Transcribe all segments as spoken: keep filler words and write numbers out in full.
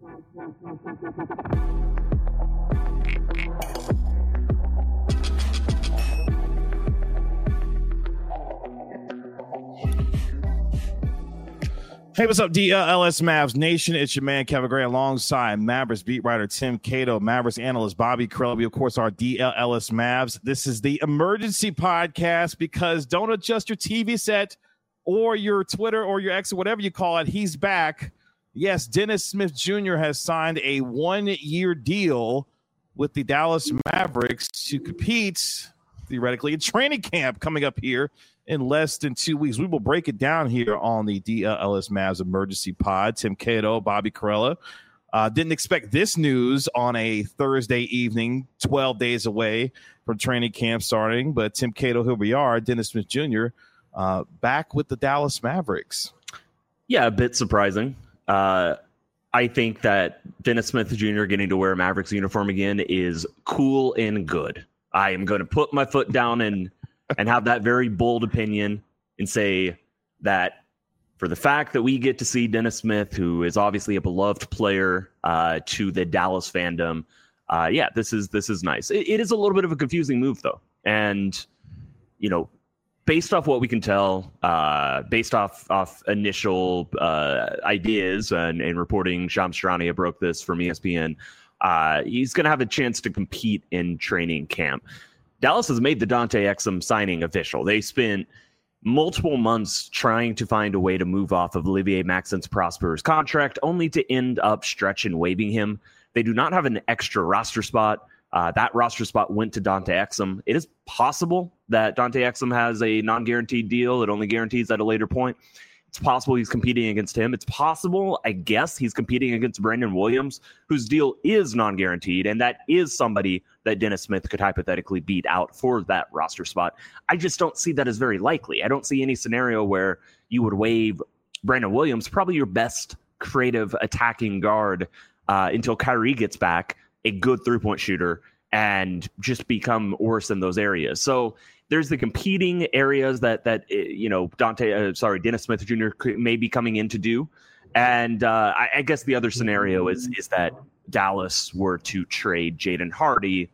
Hey, what's up, D L S Mavs Nation? It's your man, Kevin Gray, alongside Mavericks beat writer Tim Cato, Mavericks analyst Bobby Karalla. We, of course, are D L S Mavs. This is the emergency podcast because don't adjust your T V set or your Twitter or your X or whatever you call it. He's back. Yes, Dennis Smith Junior has signed a one-year deal with the Dallas Mavericks to compete, theoretically, in training camp coming up here in less than two weeks. We will break it down here on the D L S Mavs Emergency Pod. Tim Cato, Bobby Karalla. Uh, didn't expect this news on a Thursday evening, twelve days away from training camp starting. But Tim Cato, here we are, Dennis Smith Junior, uh, back with the Dallas Mavericks. Yeah, a bit surprising. Uh, I think that Dennis Smith Junior getting to wear a Mavericks uniform again is cool and good. I am going to put my foot down and and have that very bold opinion and say that for the fact that we get to see Dennis Smith, who is obviously a beloved player uh, to the Dallas fandom, uh, yeah, this is this is nice. It, it is a little bit of a confusing move, though. And, you know, based off what we can tell, uh, based off, off initial uh, ideas and, and reporting, Shams Charania broke this from E S P N, uh, he's going to have a chance to compete in training camp. Dallas has made the Dante Exum signing official. They spent multiple months trying to find a way to move off of Olivier Maxence Prosper's contract, only to end up stretch and waiving him. They do not have an extra roster spot. Uh, that roster spot went to Dante Exum. It is possible that Dante Exum has a non-guaranteed deal that only guarantees at a later point. It's possible he's competing against him. It's possible, I guess, he's competing against Brandon Williams, whose deal is non-guaranteed, and that is somebody that Dennis Smith could hypothetically beat out for that roster spot. I just don't see that as very likely. I don't see any scenario where you would waive Brandon Williams, probably your best creative attacking guard, uh, until Kyrie gets back, a good three-point shooter, and just become worse in those areas. So there's the competing areas that that you know Dante, uh, sorry, Dennis Smith Junior may be coming in to do, and uh, I, I guess the other scenario is is that Dallas were to trade Jaden Hardy,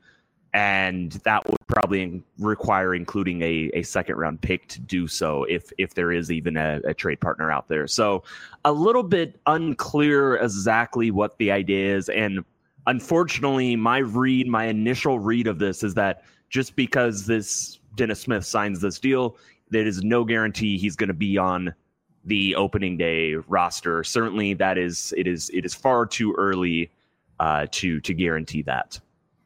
and that would probably require including a, a second round pick to do so if if there is even a, a trade partner out there. So a little bit unclear exactly what the idea is, and unfortunately, my read, my initial read of this is that just because this Dennis Smith signs this deal, there is no guarantee he's going to be on the opening day roster. Certainly, that is it is it is far too early uh, to to guarantee that.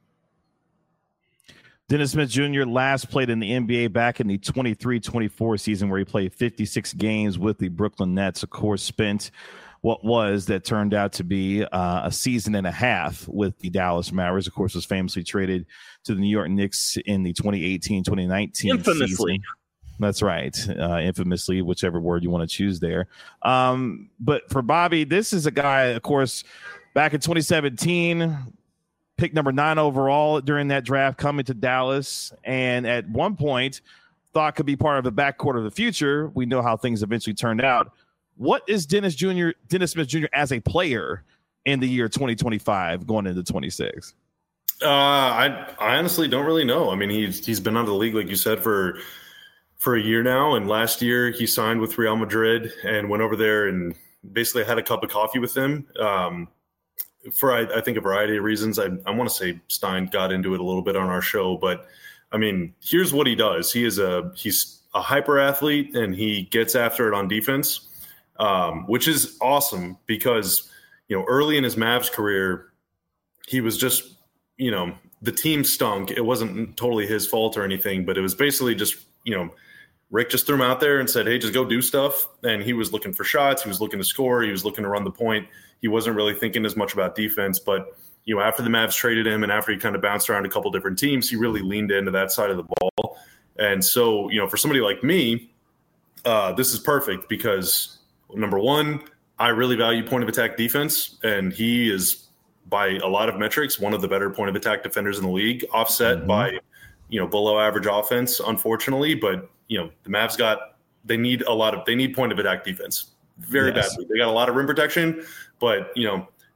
Dennis Smith Junior last played in the N B A back in the twenty-three twenty-four season, where he played fifty-six games with the Brooklyn Nets. Of course, spent what was that turned out to be uh, a season and a half with the Dallas Mavericks. Of course, was famously traded to the New York Knicks in the twenty eighteen twenty nineteen Infamously. season. That's right. Uh, infamously, whichever word you want to choose there. Um, but for Bobby, this is a guy, of course, back in twenty seventeen, picked number nine overall during that draft, coming to Dallas. And at one point, thought could be part of the backcourt of the future. We know how things eventually turned out. What is Dennis Junior, Dennis Smith Junior as a player in the year twenty twenty-five going into twenty-six? Uh, I I honestly don't really know. I mean, he's he's been out of the league, like you said, for for a year now. And last year he signed with Real Madrid and went over there and basically had a cup of coffee with them. Um, for I, I think a variety of reasons. I I want to say Stein got into it a little bit on our show, but I mean, here's what he does. He is a he's a hyper athlete and he gets after it on defense. Um, which is awesome because, you know, early in his Mavs career, he was just, you know, the team stunk. It wasn't totally his fault or anything, but it was basically just, you know, Rick just threw him out there and said, hey, just go do stuff. And he was looking for shots. He was looking to score. He was looking to run the point. He wasn't really thinking as much about defense. But, you know, after the Mavs traded him and after he kind of bounced around a couple different teams, he really leaned into that side of the ball. And so, you know, for somebody like me, uh, this is perfect because – number one, I really value point of attack defense, and he is, by a lot of metrics, one of the better point of attack defenders in the league, offset mm-hmm. by, you know, below average offense, unfortunately. But, you know, the Mavs got, they need a lot of, they need point of attack defense very yes. badly. They got a lot of rim protection, but, you know,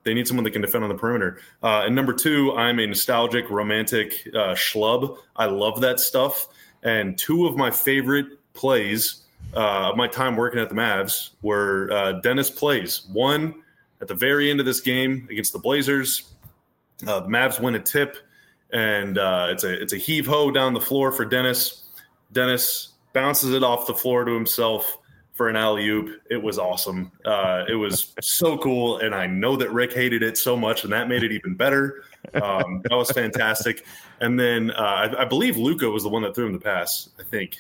They need someone that can defend on the perimeter. Uh, and number two, I'm a nostalgic, romantic uh, schlub. I love that stuff. And two of my favorite plays uh, of my time working at the Mavs were uh, Dennis plays. One at the very end of this game against the Blazers. Uh, the Mavs win a tip, and uh, it's a it's a heave-ho down the floor for Dennis. Dennis bounces it off the floor to himself for an alley-oop. It was awesome. Uh, it was so cool, and I know that Rick hated it so much, and that made it even better. Um, that was fantastic. And then uh, I, I believe Luka was the one that threw him the pass, I think.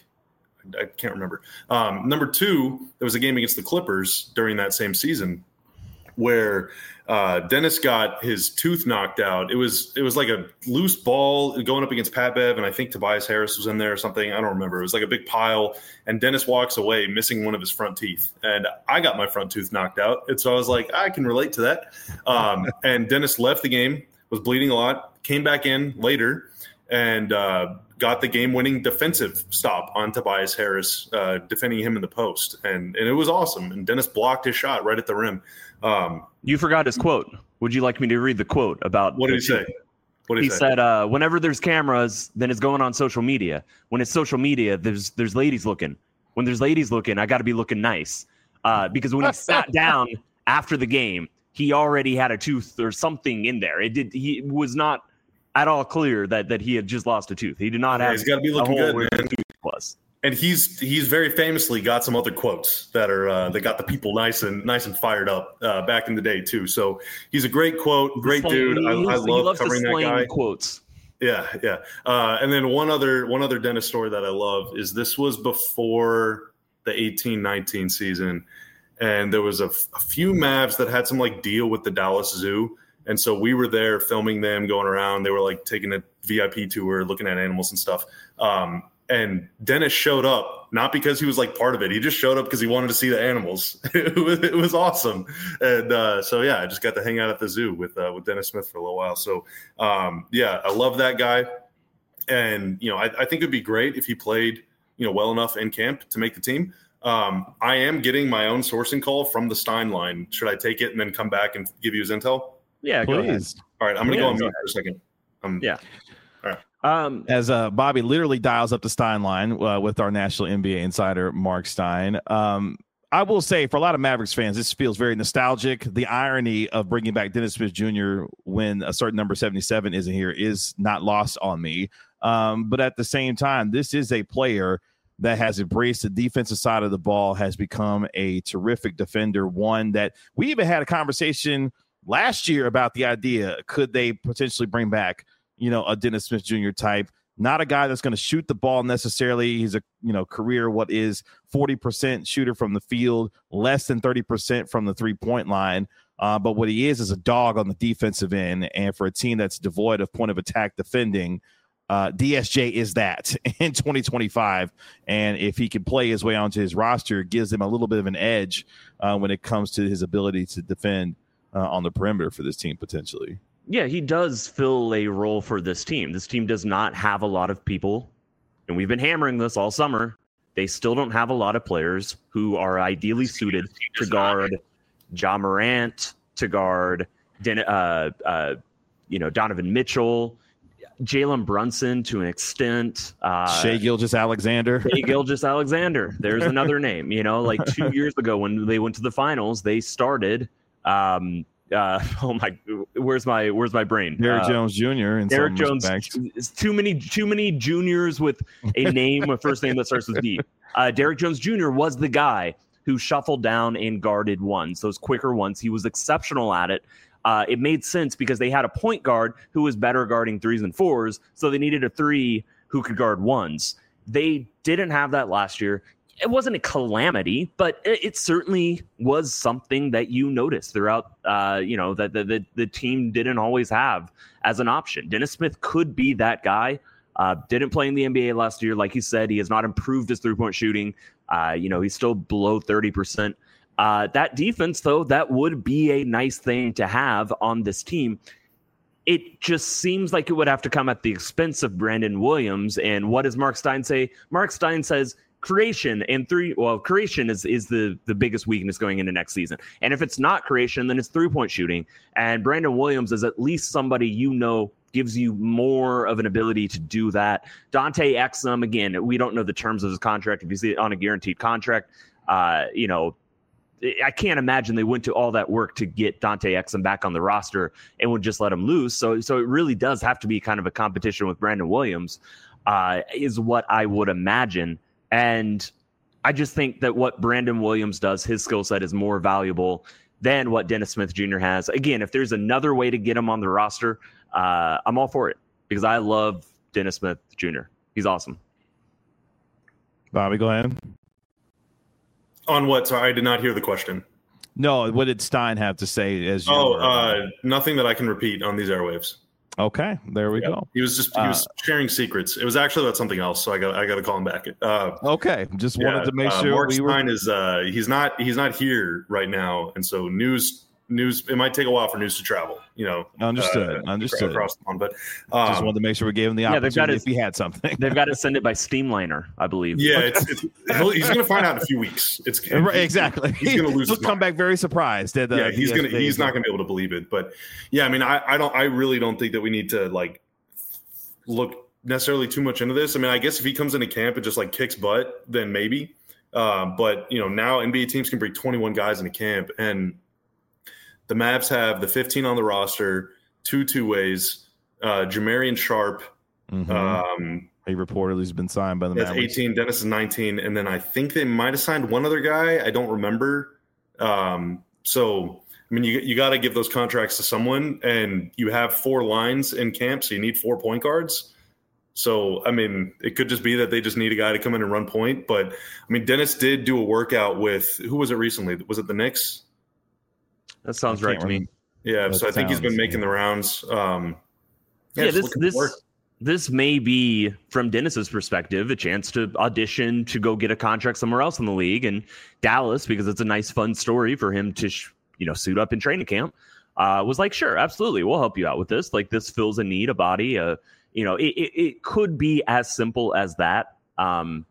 I can't remember. Um, number two, there was a game against the Clippers during that same season where uh, Dennis got his tooth knocked out. It was it was like a loose ball going up against Pat Bev, and I think Tobias Harris was in there or something. I don't remember. It was like a big pile, and Dennis walks away missing one of his front teeth. And I got my front tooth knocked out, and so I was like, I can relate to that. Um, and Dennis left the game, was bleeding a lot, came back in later, and uh, got the game-winning defensive stop on Tobias Harris, uh, defending him in the post. And, and it was awesome. And Dennis blocked his shot right at the rim. Um, you forgot his quote. Would you like me to read the quote about what did he say? What did he, he he say? said, uh, whenever there's cameras, then it's going on social media. When it's social media, there's there's ladies looking. When there's ladies looking, I got to be looking nice. Uh, because when he sat down after the game, he already had a tooth or something in there. It did. He was not at all clear that that he had just lost a tooth. He did not yeah, have. He's got to be looking a hole good, where man. the tooth was. And he's he's very famously got some other quotes that are uh, that got the people nice and nice and fired up uh, back in the day too. So he's a great quote, great Slang, dude. I, I love covering that guy. Quotes. Yeah, yeah. Uh, and then one other one other Dennis story that I love is this was before the eighteen nineteen season, and there was a, a few Mavs that had some like deal with the Dallas Zoo. And so we were there filming them going around. They were like taking a V I P tour, looking at animals and stuff. Um, And Dennis showed up, not because he was like part of it. He just showed up because he wanted to see the animals. it, was, it was awesome. And uh, so, yeah, I just got to hang out at the zoo with uh, with Dennis Smith for a little while. So, um, yeah, I love that guy. And, you know, I, I think it would be great if he played, you know, well enough in camp to make the team. Um, I am getting my own sourcing call from the Stein line. Should I take it and then come back and give you his intel? Yeah, please. go ahead. All right, I'm going to Yeah, go on go mute for a second. Um, Yeah. All right. Um, As uh, Bobby literally dials up the Stein line uh, with our national N B A insider, Mark Stein. Um, I will say, for a lot of Mavericks fans, this feels very nostalgic. The irony of bringing back Dennis Smith Junior when a certain number seventy-seven isn't here is not lost on me. Um, but at the same time, this is a player that has embraced the defensive side of the ball, has become a terrific defender, one that we even had a conversation last year about the idea, could they potentially bring back, you know, a Dennis Smith Junior type, not a guy that's going to shoot the ball necessarily. He's a, you know, career, what is forty percent shooter from the field, less than thirty percent from the three point line. Uh, but what he is, is a dog on the defensive end. And for a team that's devoid of point of attack defending, uh, D S J is that in twenty twenty-five. And if he can play his way onto his roster, it gives him a little bit of an edge uh, when it comes to his ability to defend uh, on the perimeter for this team potentially. Yeah, he does fill a role for this team. This team does not have a lot of people, and we've been hammering this all summer. They still don't have a lot of players who are ideally suited to guard Ja Morant, to guard Den- uh, uh, you know, Donovan Mitchell, Jalen Brunson to an extent. Uh, Shai Gilgeous-Alexander. Shai Gilgeous-Alexander. There's another name. You know, like two years ago when they went to the finals, they started. Um, uh, oh my, where's my where's my brain? Derrick uh, Jones Junior In Derrick some Jones. respects. It's too many too many juniors with a name, a first name that starts with D. Uh, Derrick Jones Junior was the guy who shuffled down and guarded ones, those quicker ones. He was exceptional at it. Uh, it made sense because they had a point guard who was better guarding threes and fours, so they needed a three who could guard ones. They didn't have that last year. It wasn't a calamity, but it, it certainly was something that you noticed throughout, uh, you know, that the, the, the team didn't always have as an option. Dennis Smith could be that guy. Uh, didn't play in the N B A last year. Like you said, he has not improved his three-point shooting. Uh, you know, he's still below thirty percent. Uh, that defense, though, that would be a nice thing to have on this team. It just seems like it would have to come at the expense of Brandon Williams. And what does Mark Stein say? Mark Stein says, creation and three. Well, creation is is the the biggest weakness going into next season. And if it's not creation, then it's three point shooting. And Brandon Williams is at least somebody you know gives you more of an ability to do that. Dante Exum, again, we don't know the terms of his contract. If you see it on a guaranteed contract, uh, you know, I can't imagine they went to all that work to get Dante Exum back on the roster and would just let him loose. So, so it really does have to be kind of a competition with Brandon Williams, uh, is what I would imagine. And I just think that what Brandon Williams does, his skill set is more valuable than what Dennis Smith Junior has. Again, if there's another way to get him on the roster, uh, I'm all for it because I love Dennis Smith Junior He's awesome. Bobby, go ahead. On what? Sorry, I did not hear the question. No, what did Stein have to say? As you oh, were, uh, nothing that I can repeat on these airwaves. Okay, there we yeah. go. He was just he was uh, sharing secrets. It was actually about something else, so I got I got to call him back. Uh, okay, just yeah, wanted to make uh, sure. Mark we Stein were... is uh, he's not he's not here right now, and so news news it might take a while for news to travel. You know, understood, uh, understood. Across the pond, but um, just wanted to make sure we gave him the yeah, opportunity to, if he had something. They've got to send it by Steamliner, I believe. Yeah, it's, it's, he's going to find out in a few weeks. It's right, exactly. He's going to lose. He'll his come mind. back very surprised. That, uh, yeah, he's going to he's not going to be able to believe it. But yeah, I mean, I, I don't I really don't think that we need to like look necessarily too much into this. I mean, I guess if he comes into camp and just like kicks butt, then maybe. Um, but you know, now N B A teams can bring twenty-one guys into camp, and the Mavs have the fifteen on the roster, two two ways. Uh, Jamarian Sharp, mm-hmm. um, he reportedly has been signed by the That's Mavs. eighteen. Dennis is nineteen, and then I think they might have signed one other guy. I don't remember. Um, so I mean, you you got to give those contracts to someone, and you have four lines in camp, so you need four point guards. So I mean, it could just be that they just need a guy to come in and run point. But I mean, Dennis did do a workout with who was it recently? Was it the Knicks? That sounds right to me. Yeah, that so I think he's been making yeah. the rounds. Um, yeah, yeah this this this may be, from Dennis's perspective, a chance to audition to go get a contract somewhere else in the league, and Dallas, because it's a nice, fun story for him to, sh- you know, suit up in training camp. Uh, was like, sure, absolutely, we'll help you out with this. Like, this fills a need, a body. Uh, you know, it, it it could be as simple as that. Um,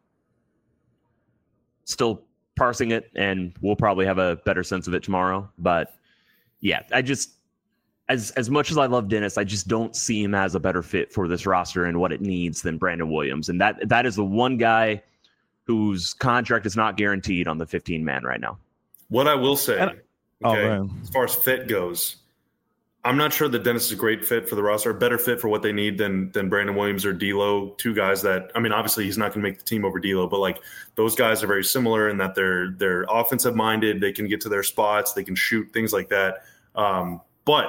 still parsing it, and we'll probably have a better sense of it tomorrow, but. Yeah, I just, as as much as I love Dennis, I just don't see him as a better fit for this roster and what it needs than Brandon Williams. And that that is the one guy whose contract is not guaranteed on the fifteen man right now. What I will say, and, okay, oh, as far as fit goes, I'm not sure that Dennis is a great fit for the roster, a better fit for what they need than than Brandon Williams or D'Lo, two guys that, I mean, obviously he's not going to make the team over D'Lo, but like those guys are very similar in that they're they're offensive minded, they can get to their spots, they can shoot, things like that. Um, but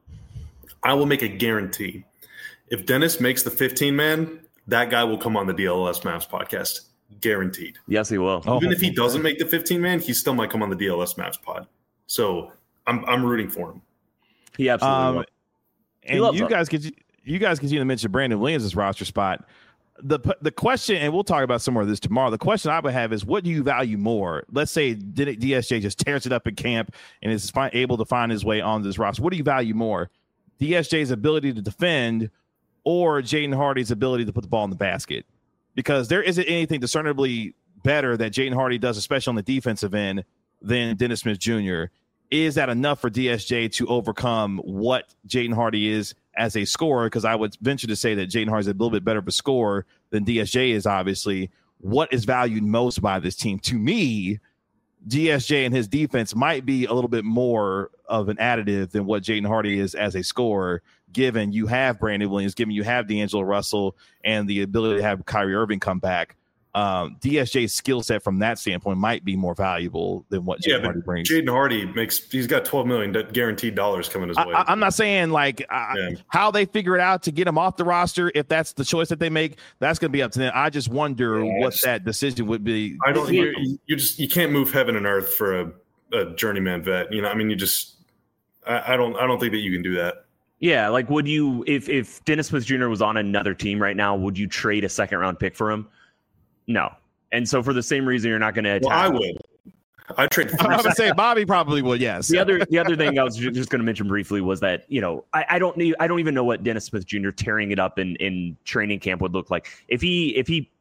I will make a guarantee. If Dennis makes the fifteen man, that guy will come on the D L L S Mavs podcast. Guaranteed. Yes, he will. Even oh, if he doesn't make the fifteen man, he still might come on the D L S Mavs pod. So I'm I'm rooting for him. He absolutely um, will. And you him. guys could you guys continue to mention Brandon Williams' roster spot. The the question, and we'll talk about some more of this tomorrow. The question I would have is, what do you value more? Let's say D S J just tears it up in camp and is fi- able to find his way on this roster. What do you value more? D S J's ability to defend or Jaden Hardy's ability to put the ball in the basket? Because there isn't anything discernibly better that Jaden Hardy does, especially on the defensive end, than Dennis Smith Junior Is that enough for D S J to overcome what Jaden Hardy is as a scorer? Because I would venture to say that Jaden Hardy is a little bit better of a scorer than D S J is, obviously. What is valued most by this team? To me, D S J and his defense might be a little bit more of an additive than what Jaden Hardy is as a scorer, given you have Brandon Williams, given you have D'Angelo Russell, and the ability to have Kyrie Irving come back. Um, D S J's skill set from that standpoint might be more valuable than what Jaden yeah, Hardy brings. Jaden Hardy makes he's got twelve million guaranteed dollars coming his way. I, I'm not saying like uh, yeah. how they figure it out to get him off the roster. If that's the choice that they make, that's going to be up to them. I just wonder yeah, what just, that decision would be. I don't. You, you just you can't move heaven and earth for a, a journeyman vet. You know, I mean, you just I, I don't I don't think that you can do that. Yeah, like would you if if Dennis Smith Junior was on another team right now, would you trade a second round pick for him? No. And so for the same reason, you're not going to attack. Well, I would. I trade. I would say Bobby probably would. Yes. The other, the other thing I was just going to mention briefly was that, you know, I, I don't need, I don't even know what Dennis Smith Junior tearing it up in, in training camp would look like. If he, if he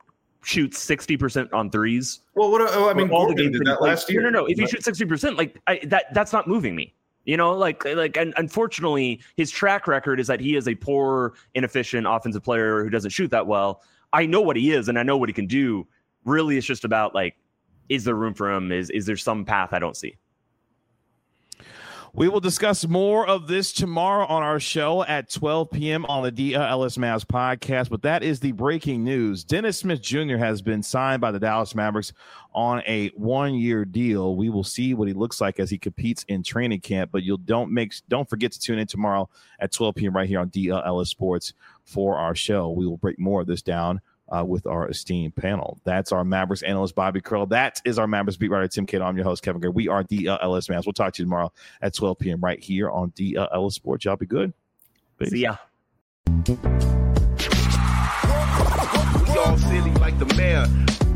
shoots sixty percent on threes. Well, what oh, I mean, all Gordon the games did that like, last year. No, no, no. If he shoots sixty percent, like I, that, that's not moving me. You know, like, like, and unfortunately, his track record is that he is a poor, inefficient offensive player who doesn't shoot that well. I know what he is, and I know what he can do. Really, it's just about like, is there room for him? Is is there some path I don't see? We will discuss more of this tomorrow on our show at twelve p.m. on the D L S Mavs podcast. But that is the breaking news. Dennis Smith Junior has been signed by the Dallas Mavericks on a one-year deal. We will see what he looks like as he competes in training camp. But you'll don't make don't forget to tune in tomorrow at twelve p.m. right here on D L S Sports for our show. We will break more of this down Uh, with our esteemed panel. That's our Mavericks analyst, Bobby Curl. That is our Mavericks beat writer, Tim Cato. I'm your host, Kevin Gray. We are D L S Mavs. We'll talk to you tomorrow at twelve p.m. right here on D L S Sports. Y'all be good. Peace. See ya. We all silly like the mayor.